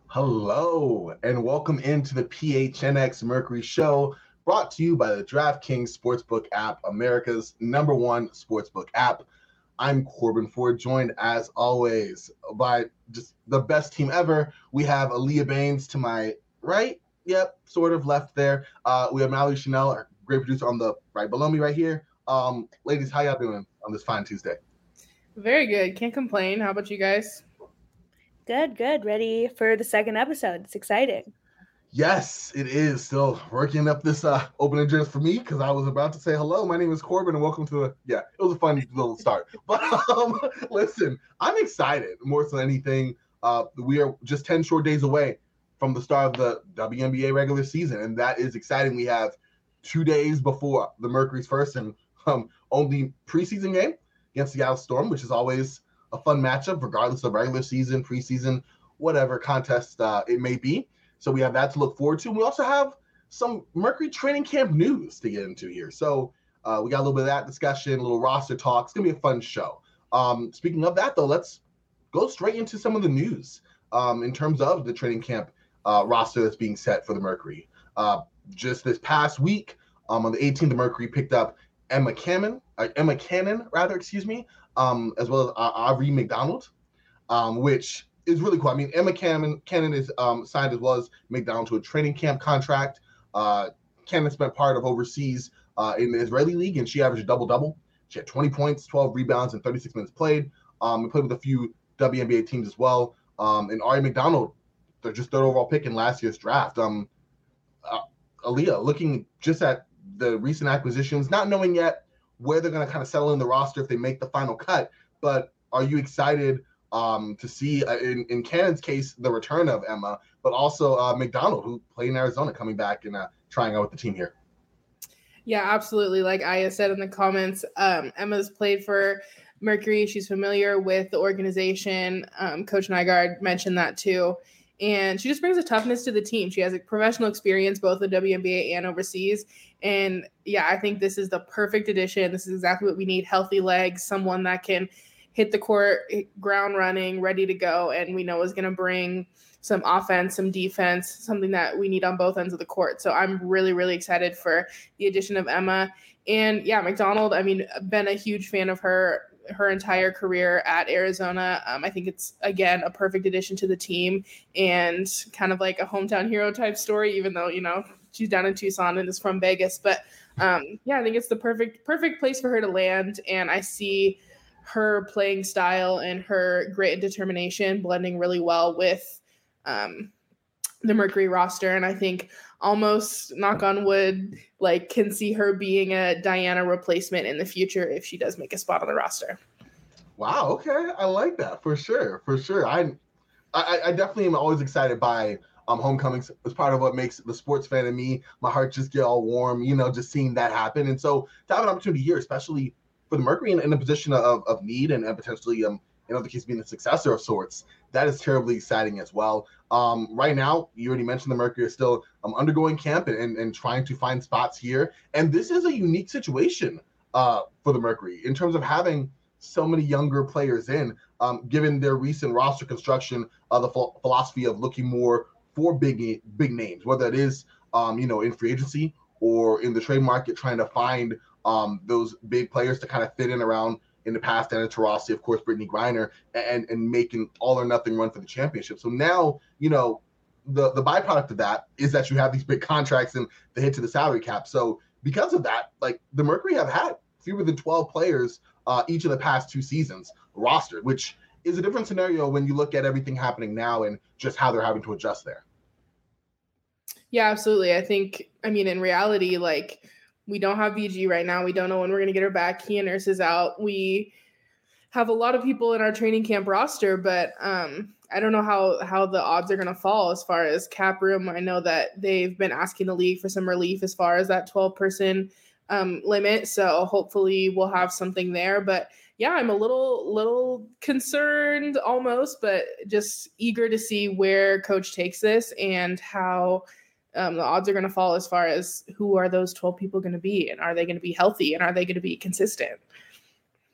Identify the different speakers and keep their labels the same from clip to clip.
Speaker 1: Hello, and welcome into the PHNX Mercury Show, brought to you by the DraftKings Sportsbook app, America's #1 sportsbook app. I'm Corbin Ford, joined as always by just the best team ever. We have Aaliyah Baines to my right. Yep, sort of left there. We have Mallory Chanel, our great producer, on the right below me right here. Ladies, how y'all doing on this fine Tuesday?
Speaker 2: Very good. Can't complain. How about you guys?
Speaker 3: Good. Ready for the second episode. It's exciting.
Speaker 1: Yes, it is still working up this opening address for me because I was about to say hello. My name is Corbin and welcome to it was a fun little start. But listen, I'm excited more than anything. We are just 10 short days away from the start of the WNBA regular season, and that is exciting. We have 2 days before the Mercury's first and only preseason game against the Seattle Storm, which is always a fun matchup, regardless of regular season, preseason, whatever contest it may be. So we have that to look forward to. And we also have some Mercury training camp news to get into here. So we got a little bit of that discussion, a little roster talk. It's going to be a fun show. Speaking of that, though, let's go straight into some of the news in terms of the training camp roster that's being set for the Mercury. Just this past week, on the 18th, the Mercury picked up Emma Cannon, as well as Aubrey McDonald, which is really cool. I mean, Emma Cannon is signed as well as McDonald to a training camp contract. Cannon spent part of overseas in the Israeli league, and she averaged a double-double. She had 20 points, 12 rebounds, and 36 minutes played. And played with a few WNBA teams as well. And Ari McDonald, they're just third overall pick in last year's draft. Aaliyah, looking just at the recent acquisitions, not knowing yet where they're going to kind of settle in the roster if they make the final cut, but are you excited to see, in Cannon's case, the return of Emma, but also McDonald, who played in Arizona, coming back and trying out with the team here?
Speaker 2: Yeah, absolutely. Like Aya said in the comments, Emma's played for Mercury. She's familiar with the organization. Coach Nygaard mentioned that too. And she just brings a toughness to the team. She has a professional experience, both in WNBA and overseas. And yeah, I think this is the perfect addition. This is exactly what we need. Healthy legs, someone that can hit the court, ground running, ready to go. And we know is going to bring some offense, some defense, something that we need on both ends of the court. So I'm really, really excited for the addition of Emma. And yeah, McDonald, I mean, been a huge fan of her entire career at Arizona. I think it's, again, a perfect addition to the team and kind of like a hometown hero type story, even though, she's down in Tucson and is from Vegas. But yeah, I think it's the perfect place for her to land. And I see her playing style and her grit and determination blending really well with the Mercury roster. And I think, almost knock on wood, can see her being a Diana replacement in the future if she does make a spot on the roster.
Speaker 1: Wow. Okay. I like that for sure. I definitely am always excited by homecomings. It's part of what makes the sports fan in me, my heart just get all warm, just seeing that happen. And so to have an opportunity here, especially for the Mercury in a position of need and potentially in other cases being a successor of sorts, that is terribly exciting as well. Right now, you already mentioned the Mercury is still undergoing camp and trying to find spots here. And this is a unique situation for the Mercury in terms of having so many younger players in, given their recent roster construction, the philosophy of looking more for big names, whether it is, in free agency or in the trade market, trying to find those big players to kind of fit in around in the past, Anna Taurasi, of course, Brittany Griner, and making all or nothing run for the championship. So now, the byproduct of that is that you have these big contracts and the hit to the salary cap. So because of that, the Mercury have had fewer than 12 players each of the past 2 seasons rostered, which is a different scenario when you look at everything happening now and just how they're having to adjust there.
Speaker 2: Yeah, absolutely. I think, in reality, we don't have VG right now. We don't know when we're going to get her back. Kia Nurse is out. We have a lot of people in our training camp roster, but I don't know how the odds are going to fall as far as cap room. I know that they've been asking the league for some relief as far as that 12-person limit. So hopefully we'll have something there. But yeah, I'm a little concerned almost, but just eager to see where Coach takes this and how the odds are going to fall as far as who are those 12 people going to be, and are they going to be healthy, and are they going to be consistent?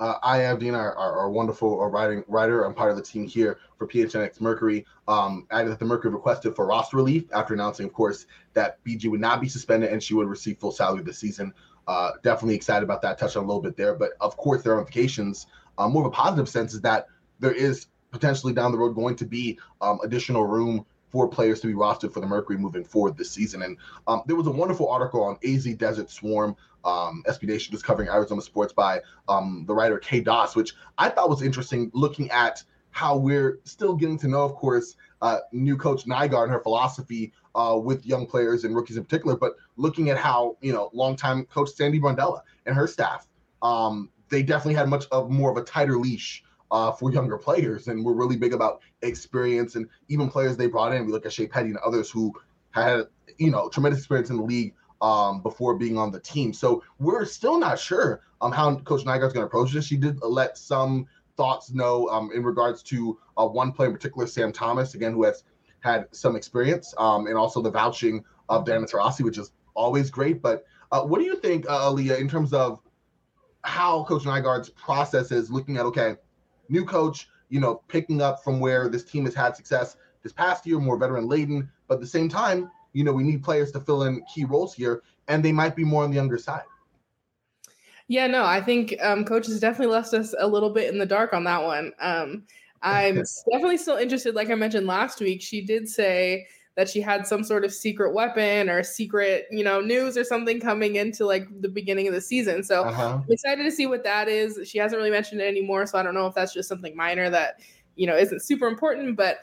Speaker 1: I, Abdeen, our wonderful writer, I'm part of the team here for PHNX Mercury, added that the Mercury requested for roster relief after announcing, of course, that BG would not be suspended and she would receive full salary this season. Definitely excited about that. Touched on a little bit there. But, of course, there are implications. More of a positive sense is that there is potentially down the road going to be additional room for players to be rostered for the Mercury moving forward this season. And there was a wonderful article on AZ Desert Swarm, SB Nation, just covering Arizona sports by the writer Kay Doss, which I thought was interesting, looking at how we're still getting to know, of course, new coach Nygaard and her philosophy with young players and rookies in particular, but looking at how, longtime coach Sandy Brandella and her staff, they definitely had much of more of a tighter leash for younger players, and we're really big about experience and even players they brought in. We look at Shea Petty and others who had, tremendous experience in the league before being on the team. So we're still not sure how Coach Nygaard's going to approach this. She did let some thoughts know in regards to one player in particular, Sam Thomas, again, who has had some experience, and also the vouching of Diana Taurasi, which is always great. But what do you think, Aaliyah, in terms of how Coach Nygaard's process is looking at, okay, new coach, picking up from where this team has had success this past year, more veteran laden, but at the same time, we need players to fill in key roles here, and they might be more on the younger side.
Speaker 2: Yeah, no, I think coach has definitely left us a little bit in the dark on that one. I'm definitely still interested. Like I mentioned last week, she did say that she had some sort of secret weapon or secret, news or something coming into like the beginning of the season. So I'm excited to see what that is. She hasn't really mentioned it anymore, so I don't know if that's just something minor that, isn't super important. But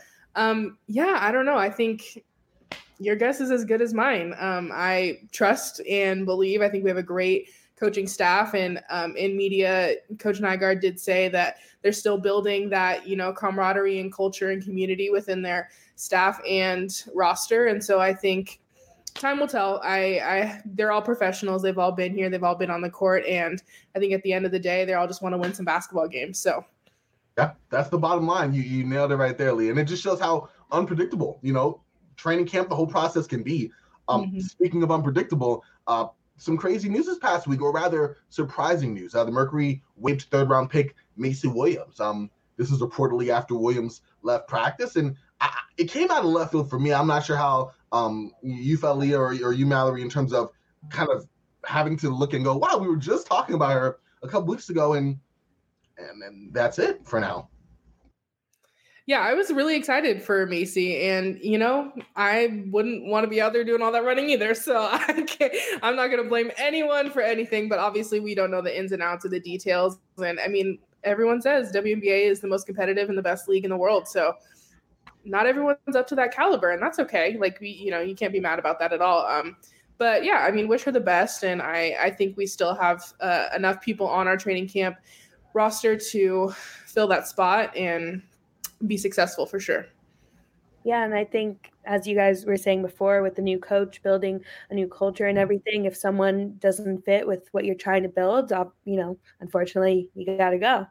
Speaker 2: I don't know. I think your guess is as good as mine. I trust and believe. I think we have a great coaching staff, and in media, Coach Nygaard did say that they're still building that, camaraderie and culture and community within their staff and roster. And so I think time will tell. They're all professionals. They've all been here. They've all been on the court. And I think at the end of the day, they all just want to win some basketball games. So
Speaker 1: yeah, that's the bottom line. You nailed it right there, Lee. And it just shows how unpredictable, training camp, the whole process can be. Speaking of unpredictable, some crazy news this past week, or rather surprising news. The Mercury waived third-round pick Macy Williams. This is reportedly after Williams left practice, and it came out of left field for me. I'm not sure how you felt, Leah, or you, Mallory, in terms of kind of having to look and go, wow, we were just talking about her a couple weeks ago, and that's it for now.
Speaker 2: Yeah, I was really excited for Macy, and I wouldn't want to be out there doing all that running either. So I'm not going to blame anyone for anything, but obviously we don't know the ins and outs of the details. And I mean, everyone says WNBA is the most competitive and the best league in the world. So not everyone's up to that caliber, and that's okay. Like you can't be mad about that at all. But yeah, I mean, wish her the best, and I think we still have enough people on our training camp roster to fill that spot and be successful for sure.
Speaker 3: Yeah, and I think, as you guys were saying before, with the new coach building a new culture and everything, if someone doesn't fit with what you're trying to build, unfortunately, you got to go.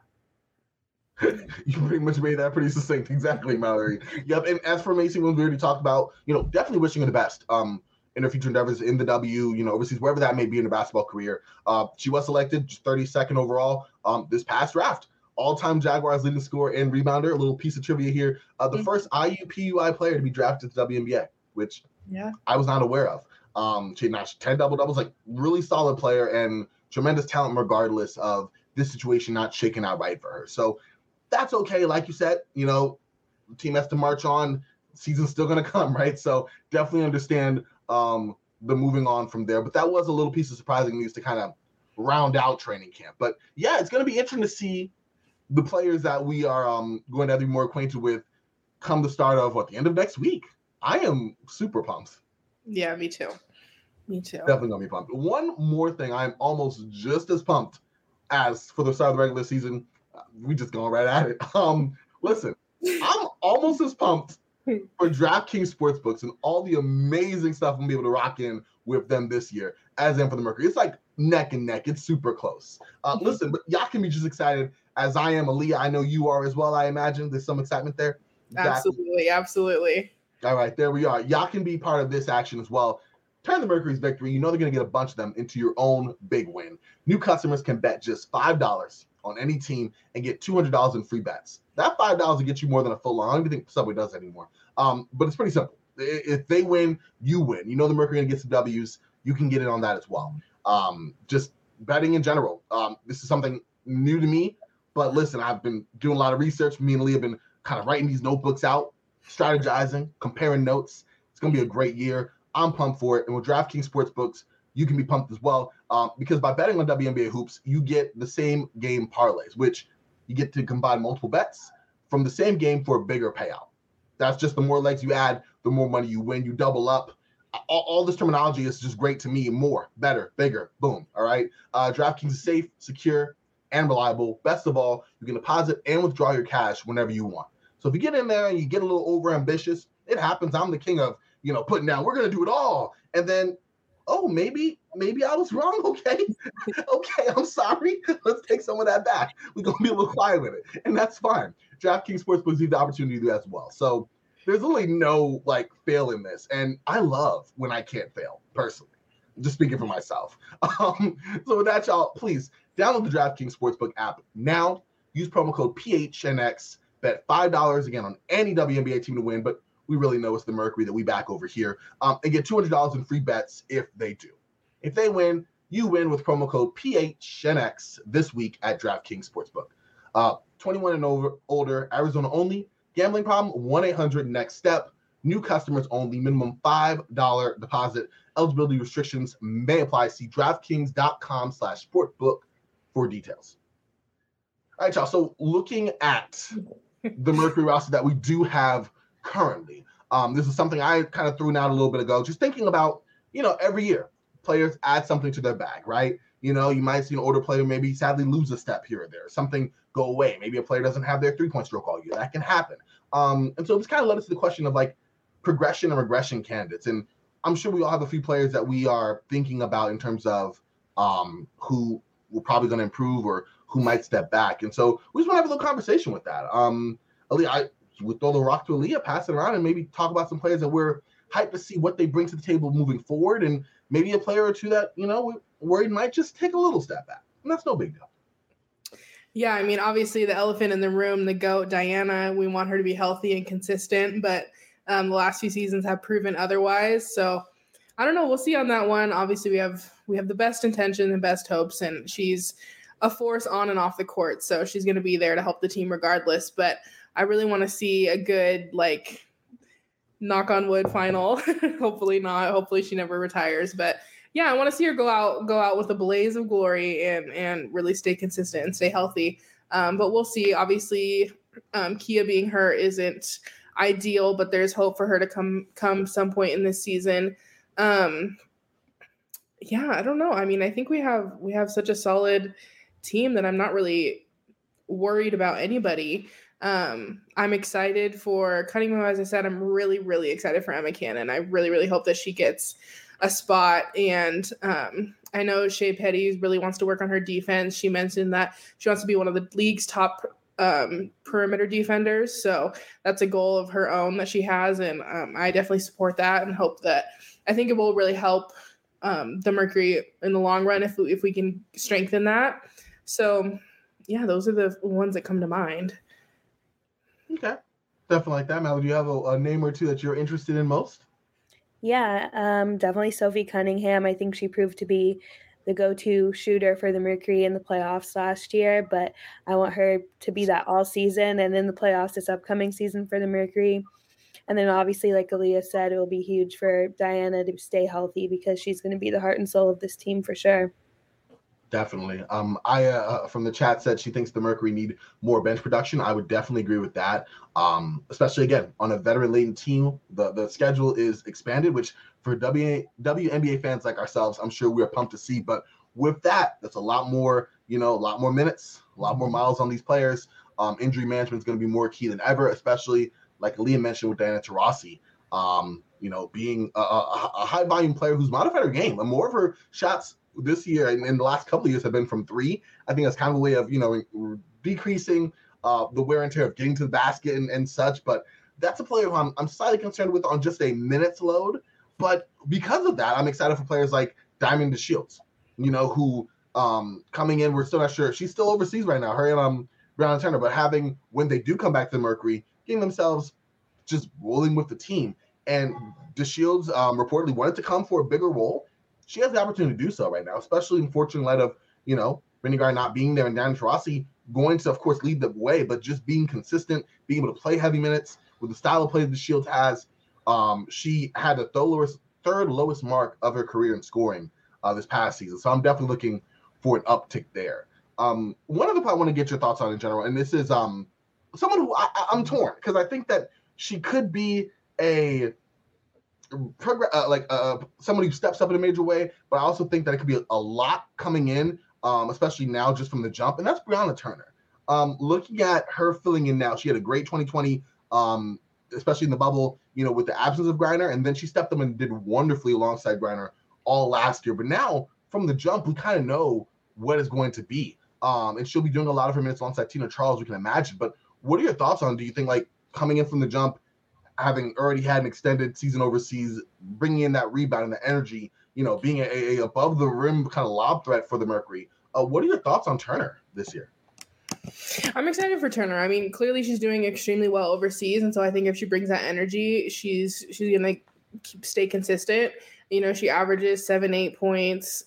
Speaker 1: You pretty much made that pretty succinct. Exactly, Mallory. Yep. And as for Macy, when we already talked about, definitely wishing her the best in her future endeavors in the W, overseas, wherever that may be in her basketball career. She was selected 32nd overall this past draft. All-time Jaguars leading scorer and rebounder. A little piece of trivia here. The first IUPUI player to be drafted to the WNBA, which I was not aware of. She notched 10 double-doubles, like really solid player and tremendous talent regardless of this situation not shaking out right for her. So that's okay. Like you said, the team has to march on. Season's still going to come, right? So definitely understand the moving on from there. But that was a little piece of surprising news to kind of round out training camp. But yeah, it's going to be interesting to see the players that we are going to be more acquainted with come the start of the end of next week. I am super pumped.
Speaker 2: Yeah, me too.
Speaker 1: Definitely going to be pumped. One more thing, I'm almost just as pumped as for the start of the regular season. We just going right at it. Listen, I'm almost as pumped for DraftKings Sportsbooks and all the amazing stuff I'm going to be able to rock in with them this year as in for the Mercury. It's like neck and neck. It's super close. Listen, but y'all can be just excited as I am. Aaliyah, I know you are as well, I imagine. There's some excitement there.
Speaker 2: Absolutely.
Speaker 1: All right, there we are. Y'all can be part of this action as well. Turn the Mercury's victory. They're going to get a bunch of them into your own big win. New customers can bet just $5 on any team and get $200 in free bets. That $5 will get you more than a full line. I don't even think Subway does that anymore. But it's pretty simple. If they win, you win. You know the Mercury going to get some W's. You can get in on that as well. Just betting in general. This is something new to me. But listen, I've been doing a lot of research. Me and Lee have been kind of writing these notebooks out, strategizing, comparing notes. It's going to be a great year. I'm pumped for it. And with DraftKings Sportsbooks, you can be pumped as well, because by betting on WNBA hoops, you get the same game parlays, which you get to combine multiple bets from the same game for a bigger payout. That's just the more legs you add, the more money you win. You double up. All this terminology is just great to me. More, better, bigger, boom. All right. DraftKings is safe, secure, and reliable. Best of all, you can deposit and withdraw your cash whenever you want. So if you get in there and you get a little over ambitious, it happens. I'm the king of, putting down, we're going to do it all. And then, maybe I was wrong. Okay. Okay. I'm sorry. Let's take some of that back. We're going to be a little quiet with it. And that's fine. DraftKings Sportsbook gives you the opportunity to do that as well. So there's really no fail in this. And I love when I can't fail personally, just speaking for myself. So with that, y'all, please download the DraftKings Sportsbook app now. Use promo code PHNX. Bet $5 again on any WNBA team to win, but we really know it's the Mercury that we back over here. And get $200 in free bets if they do. If they win, you win with promo code PHNX this week at DraftKings Sportsbook. 21 and older, Arizona only. Gambling problem, 1-800-NEXT-STEP. New customers only. Minimum $5 deposit. Eligibility restrictions may apply. See DraftKings.com/sportbook for details. All right, y'all. So looking at the Mercury roster that we do have currently, this is something I kind of threw out a little bit ago. Just thinking about, every year players add something to their bag, right? You might see an older player maybe sadly lose a step here or there. Something go away. Maybe a player doesn't have their three-point stroke all year. That can happen. And so it's kind of led us to the question of progression and regression candidates. And I'm sure we all have a few players that we are thinking about in terms of who we're probably going to improve or who might step back. And so we just want to have a little conversation with that. Aaliyah, I would throw the rock to Aaliyah, pass it around, and maybe talk about some players that we're hyped to see what they bring to the table moving forward, and maybe a player or two that, we're worried might just take a little step back. And that's no big deal.
Speaker 2: Yeah, I mean, obviously the elephant in the room, the GOAT, Diana, we want her to be healthy and consistent, but the last few seasons have proven otherwise. So I don't know. We'll see on that one. Obviously, we have the best intention and best hopes, and she's a force on and off the court. So she's going to be there to help the team regardless. But I really want to see a good, knock on wood final. Hopefully not. Hopefully she never retires. But yeah, I want to see her go out with a blaze of glory and really stay consistent and stay healthy. But we'll see. Obviously, Kia being her isn't ideal, but there's hope for her to come some point in this season. Yeah, I don't know. I mean, I think we have such a solid team that I'm not really worried about anybody. I'm excited for Cunningham. As I said, I'm really, really excited for Emma Cannon. I really, really hope that she gets a spot. And I know Shea Petty really wants to work on her defense. She mentioned that she wants to be one of the league's top perimeter defenders. So that's a goal of her own that she has. And I definitely support that and hope that I think it will really help the Mercury in the long run if we can strengthen that. So yeah, those are the ones that come to mind.
Speaker 1: Okay. Definitely like that. Mal, do you have a name or two that you're interested in most?
Speaker 3: Yeah, definitely Sophie Cunningham. I think she proved to be the go-to shooter for the Mercury in the playoffs last year, but I want her to be that all season and in the playoffs this upcoming season for the Mercury. And then obviously, like Aaliyah said, it will be huge for Diana to stay healthy because she's going to be the heart and soul of this team for sure.
Speaker 1: Definitely. Aya from the chat said she thinks the Mercury need more bench production. I would definitely agree with that. Especially again on a veteran-laden team, the schedule is expanded, which for WNBA fans like ourselves, I'm sure we're pumped to see. But with that, that's a lot more, a lot more minutes, a lot more miles on these players. Injury management is going to be more key than ever, especially like Aaliyah mentioned with Diana Taurasi. Being a high-volume player who's modified her game, and more of her shots this year and in the last couple of years have been from three. I think that's kind of a way of, decreasing the wear and tear of getting to the basket and such. But that's a player who I'm slightly concerned with on just a minutes load. But because of that, I'm excited for players like Diamond DeShields, who coming in. We're still not sure. She's still overseas right now, her and Brianna Turner, but having, when they do come back to the Mercury, getting themselves just rolling with the team. And DeShields reportedly wanted to come for a bigger role. She has the opportunity to do so right now, especially in fortune light of, Brittany Griner not being there and Diana Taurasi going to, of course, lead the way, but just being consistent, being able to play heavy minutes with the style of play that DeShields has. She had the third lowest mark of her career in scoring this past season. So I'm definitely looking for an uptick there. One other part I want to get your thoughts on in general, and this is someone who I'm torn, because I think that she could be someone who steps up in a major way, but I also think that it could be a lot coming in, especially now just from the jump, and that's Brianna Turner. Looking at her filling in now, she had a great 2020, especially in the bubble, with the absence of Griner, and then she stepped up and did wonderfully alongside Griner all last year. But now, from the jump, we kind of know what it's going to be. And she'll be doing a lot of her minutes alongside Tina Charles, we can imagine. But what are your thoughts on, do you think, coming in from the jump, having already had an extended season overseas, bringing in that rebound and the energy, being a above the rim kind of lob threat for the Mercury? What are your thoughts on Turner this year?
Speaker 2: I'm excited for Turner. I mean, clearly she's doing extremely well overseas, and so I think if she brings that energy, she's gonna stay consistent. She averages 7-8 points,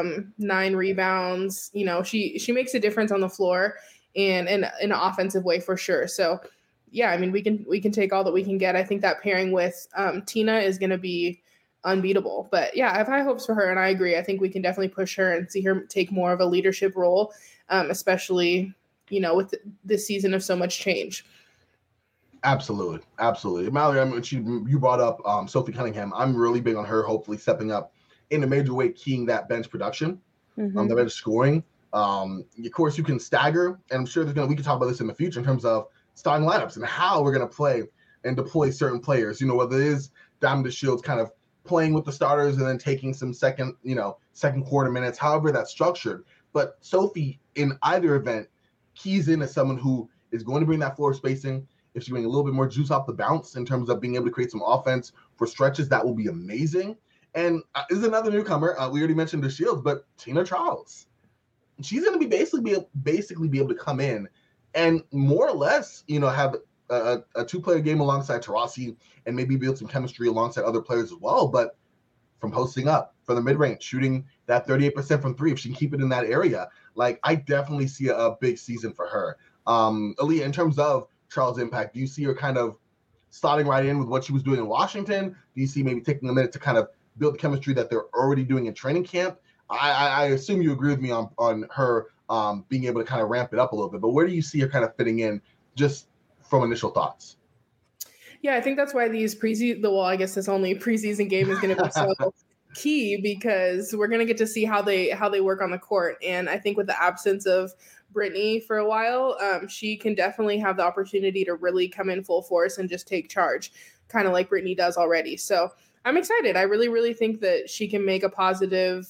Speaker 2: 9 rebounds. She makes a difference on the floor and in an offensive way for sure. So yeah, I mean, we can take all that we can get. I think that pairing with Tina is going to be unbeatable. But yeah, I have high hopes for her, and I agree. I think we can definitely push her and see her take more of a leadership role, especially with this season of so much change.
Speaker 1: Absolutely. Mallory, you brought up Sophie Cunningham. I'm really big on her hopefully stepping up in a major way, keying that bench production, the bench scoring. Of course, you can stagger, and I'm sure we can talk about this in the future in terms of starting lineups and how we're going to play and deploy certain players, whether it is Diamond DeShields kind of playing with the starters and then taking some second quarter minutes, however that's structured. But Sophie, in either event, keys in as someone who is going to bring that floor spacing. If she brings a little bit more juice off the bounce in terms of being able to create some offense for stretches, that will be amazing. And is another newcomer. We already mentioned DeShields, but Tina Charles. She's going to be basically be able to come in and more or less, have a 2-player game alongside Taurasi and maybe build some chemistry alongside other players as well. But from posting up, from the mid-range, shooting that 38% from 3, if she can keep it in that area, I definitely see a big season for her. Aaliyah, in terms of Charles' impact, do you see her kind of slotting right in with what she was doing in Washington? Do you see maybe taking a minute to kind of build the chemistry that they're already doing in training camp? I assume you agree with me on her being able to kind of ramp it up a little bit, but where do you see her kind of fitting in just from initial thoughts?
Speaker 2: Yeah, I think that's why these I guess this only preseason game is going to be so key, because we're going to get to see how they work on the court. And I think with the absence of Brittany for a while, she can definitely have the opportunity to really come in full force and just take charge, kind of like Brittany does already. So I'm excited. I really, really think that she can make a positive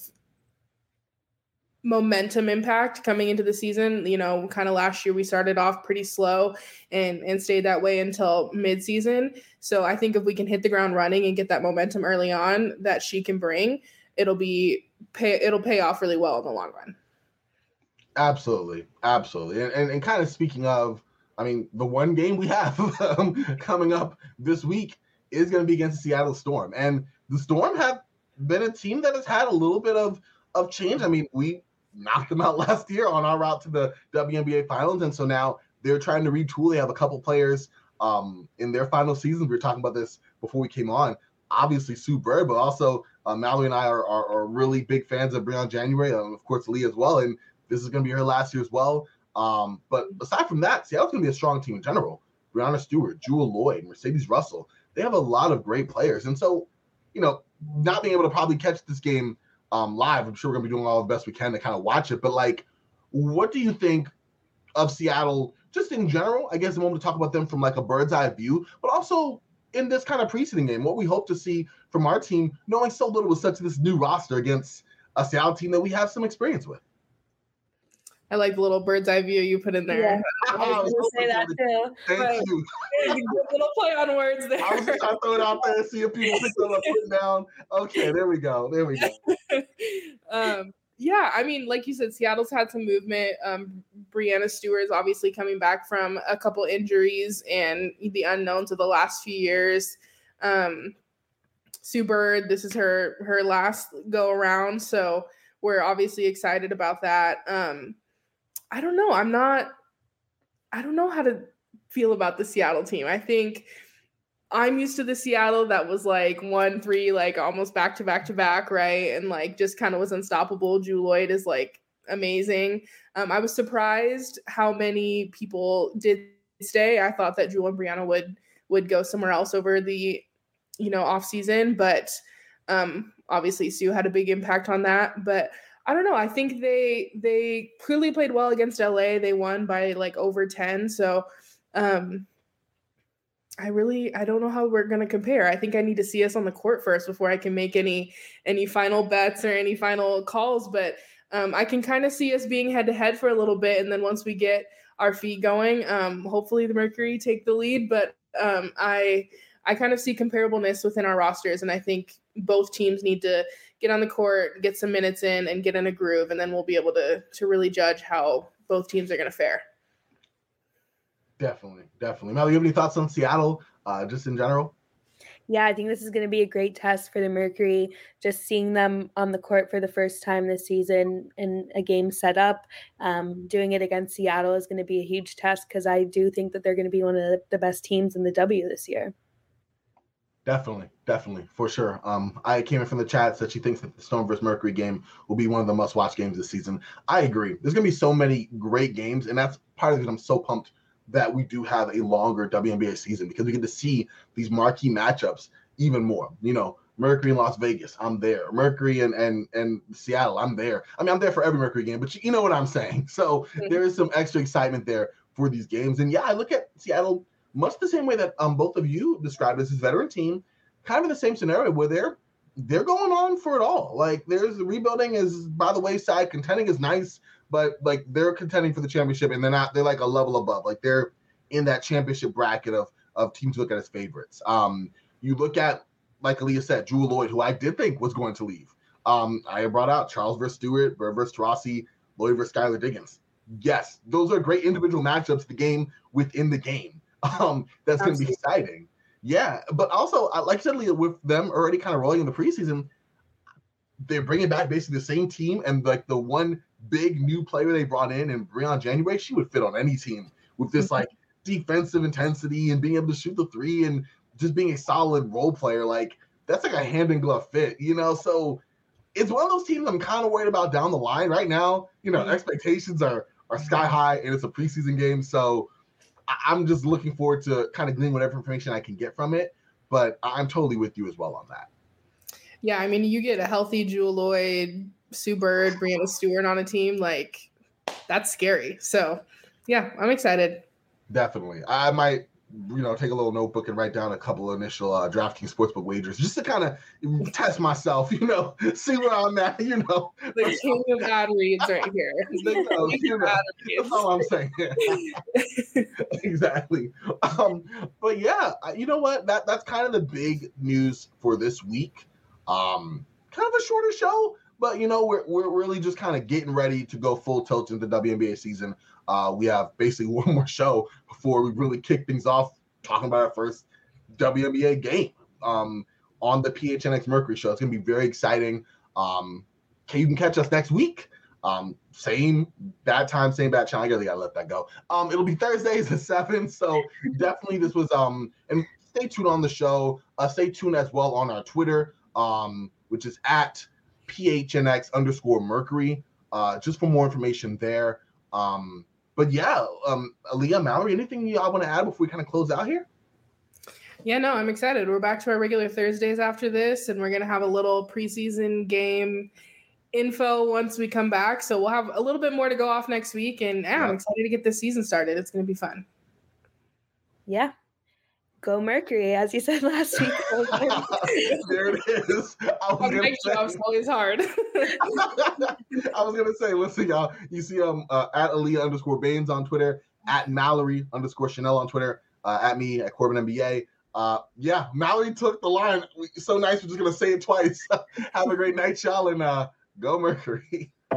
Speaker 2: momentum impact coming into the season. Kind of last year we started off pretty slow and stayed that way until mid-season. So I think if we can hit the ground running and get that momentum early on that she can bring, it'll pay off really well in the long run.
Speaker 1: Absolutely. And kind of speaking of, the one game we have coming up this week is going to be against the Seattle Storm. And the Storm have been a team that has had a little bit of change. We knocked them out last year on our route to the WNBA finals. And so now they're trying to retool. They have a couple players in their final seasons. We were talking about this before we came on. Obviously, Sue Bird, but also Mallory and I are really big fans of Breon January, and of course, Lee as well. And this is going to be her last year as well. But aside from that, Seattle's going to be a strong team in general. Breanna Stewart, Jewel Lloyd, Mercedes Russell. They have a lot of great players. And so, not being able to probably catch this game live, I'm sure we're going to be doing all the best we can to kind of watch it. But, what do you think of Seattle just in general? I guess I want to talk about them from a bird's eye view, but also in this kind of preseason game, what we hope to see from our team, knowing so little with such this new roster against a Seattle team that we have some experience with.
Speaker 2: I like the little bird's eye view you put in there.
Speaker 3: Yeah. I was going to say that too.
Speaker 1: Thank you.
Speaker 2: Good little play on words there.
Speaker 1: I was just trying to throw it out there and see if people pick it up, put it down. Okay, there we go.
Speaker 2: Yeah, I mean, like you said, Seattle's had some movement. Breanna Stewart is obviously coming back from a couple injuries and the unknowns of the last few years. Sue Bird, this is her last go around, so we're obviously excited about that. I don't know. I don't know how to feel about the Seattle team. I think I'm used to the Seattle that was like 1-3, like almost back to back, right? And like just kind of was unstoppable. Jewell Loyd is like amazing. I was surprised how many people did stay. I thought that Jewell and Breanna would go somewhere else over the, off season, but obviously Sue had a big impact on that. But I don't know. I think they clearly played well against LA. They won by like over 10. So I don't know how we're going to compare. I think I need to see us on the court first before I can make any final bets or any final calls. But I can kind of see us being head to head for a little bit. And then once we get our feet going, hopefully the Mercury take the lead. But I kind of see comparableness within our rosters. And I think both teams need to get on the court, get some minutes in, and get in a groove. And then we'll be able to really judge how both teams are going to fare.
Speaker 1: Definitely. Mel, you have any thoughts on Seattle, just in general?
Speaker 3: Yeah, I think this is going to be a great test for the Mercury. Just seeing them on the court for the first time this season in a game setup, doing it against Seattle is going to be a huge test because I do think that they're going to be one of the best teams in the W this year.
Speaker 1: Definitely, for sure. I came in from the chat, said she thinks that the Storm versus Mercury game will be one of the must-watch games this season. I agree. There's going to be so many great games, and that's part of the reason I'm so pumped that we do have a longer WNBA season because we get to see these marquee matchups even more. Mercury in Las Vegas, I'm there. Mercury and Seattle, I'm there. I mean, I'm there for every Mercury game, but you know what I'm saying. So there is some extra excitement there for these games. And yeah, I look at Seattle much the same way that both of you described this veteran team, kind of in the same scenario where they're going on for it all. Like there's rebuilding is by the wayside, contending is nice, but like they're contending for the championship and they're like a level above. Like they're in that championship bracket of teams to look at as favorites. You look at, like Aaliyah said, Jewell Loyd, who I did think was going to leave. I brought out Charles versus Stewart, Bird versus Taurasi, Loyd versus Skylar Diggins. Yes, those are great individual matchups, the game within the game. That's going to be exciting. Yeah, but also, like I said, Leah, with them already kind of rolling in the preseason, they're bringing back basically the same team, and like the one big new player they brought in Breon January, she would fit on any team with this like defensive intensity and being able to shoot the three and just being a solid role player. Like that's like a hand in glove fit, So it's one of those teams I'm kind of worried about down the line. Right now, expectations are sky high, and it's a preseason game, so I'm just looking forward to kind of gleaning whatever information I can get from it. But I'm totally with you as well on that.
Speaker 2: Yeah, I mean, you get a healthy Jewell Loyd, Sue Bird, Breanna Stewart on a team, like that's scary. So yeah, I'm excited.
Speaker 1: Definitely. I might, take a little notebook and write down a couple of initial DraftKings Sportsbook wagers just to kind of test myself, see where I'm at,
Speaker 2: The king of ad reads right here.
Speaker 1: That's all I'm saying. Exactly. But yeah, you know what? That's kind of the big news for this week. Kind of a shorter show, but we're really just kind of getting ready to go full tilt into the WNBA season. We have basically one more show before we really kick things off, talking about our first WNBA game on the PHNX Mercury show. It's going to be very exciting. You can catch us next week. Same bad time, same bad channel. I guess I got to let that go. It'll be Thursdays at 7. So definitely this was, and stay tuned on the show. Stay tuned as well on our Twitter, which is at PHNX_Mercury, just for more information there. But yeah, Aaliyah, Mallory, anything y'all want to add before we kind of close out here?
Speaker 2: Yeah, no, I'm excited. We're back to our regular Thursdays after this, and we're going to have a little preseason game info once we come back. So we'll have a little bit more to go off next week, and I'm excited to get this season started. It's going to be fun.
Speaker 3: Yeah. Go Mercury, as you said last week.
Speaker 1: There it is.
Speaker 2: My job's always hard.
Speaker 1: I was gonna say, listen, y'all. You see, at Aaliyah_Baines on Twitter, at Mallory_Chanel on Twitter, at me at Corbin NBA. Yeah, Mallory took the line. So nice. We're just gonna say it twice. Have a great night, y'all, and go Mercury.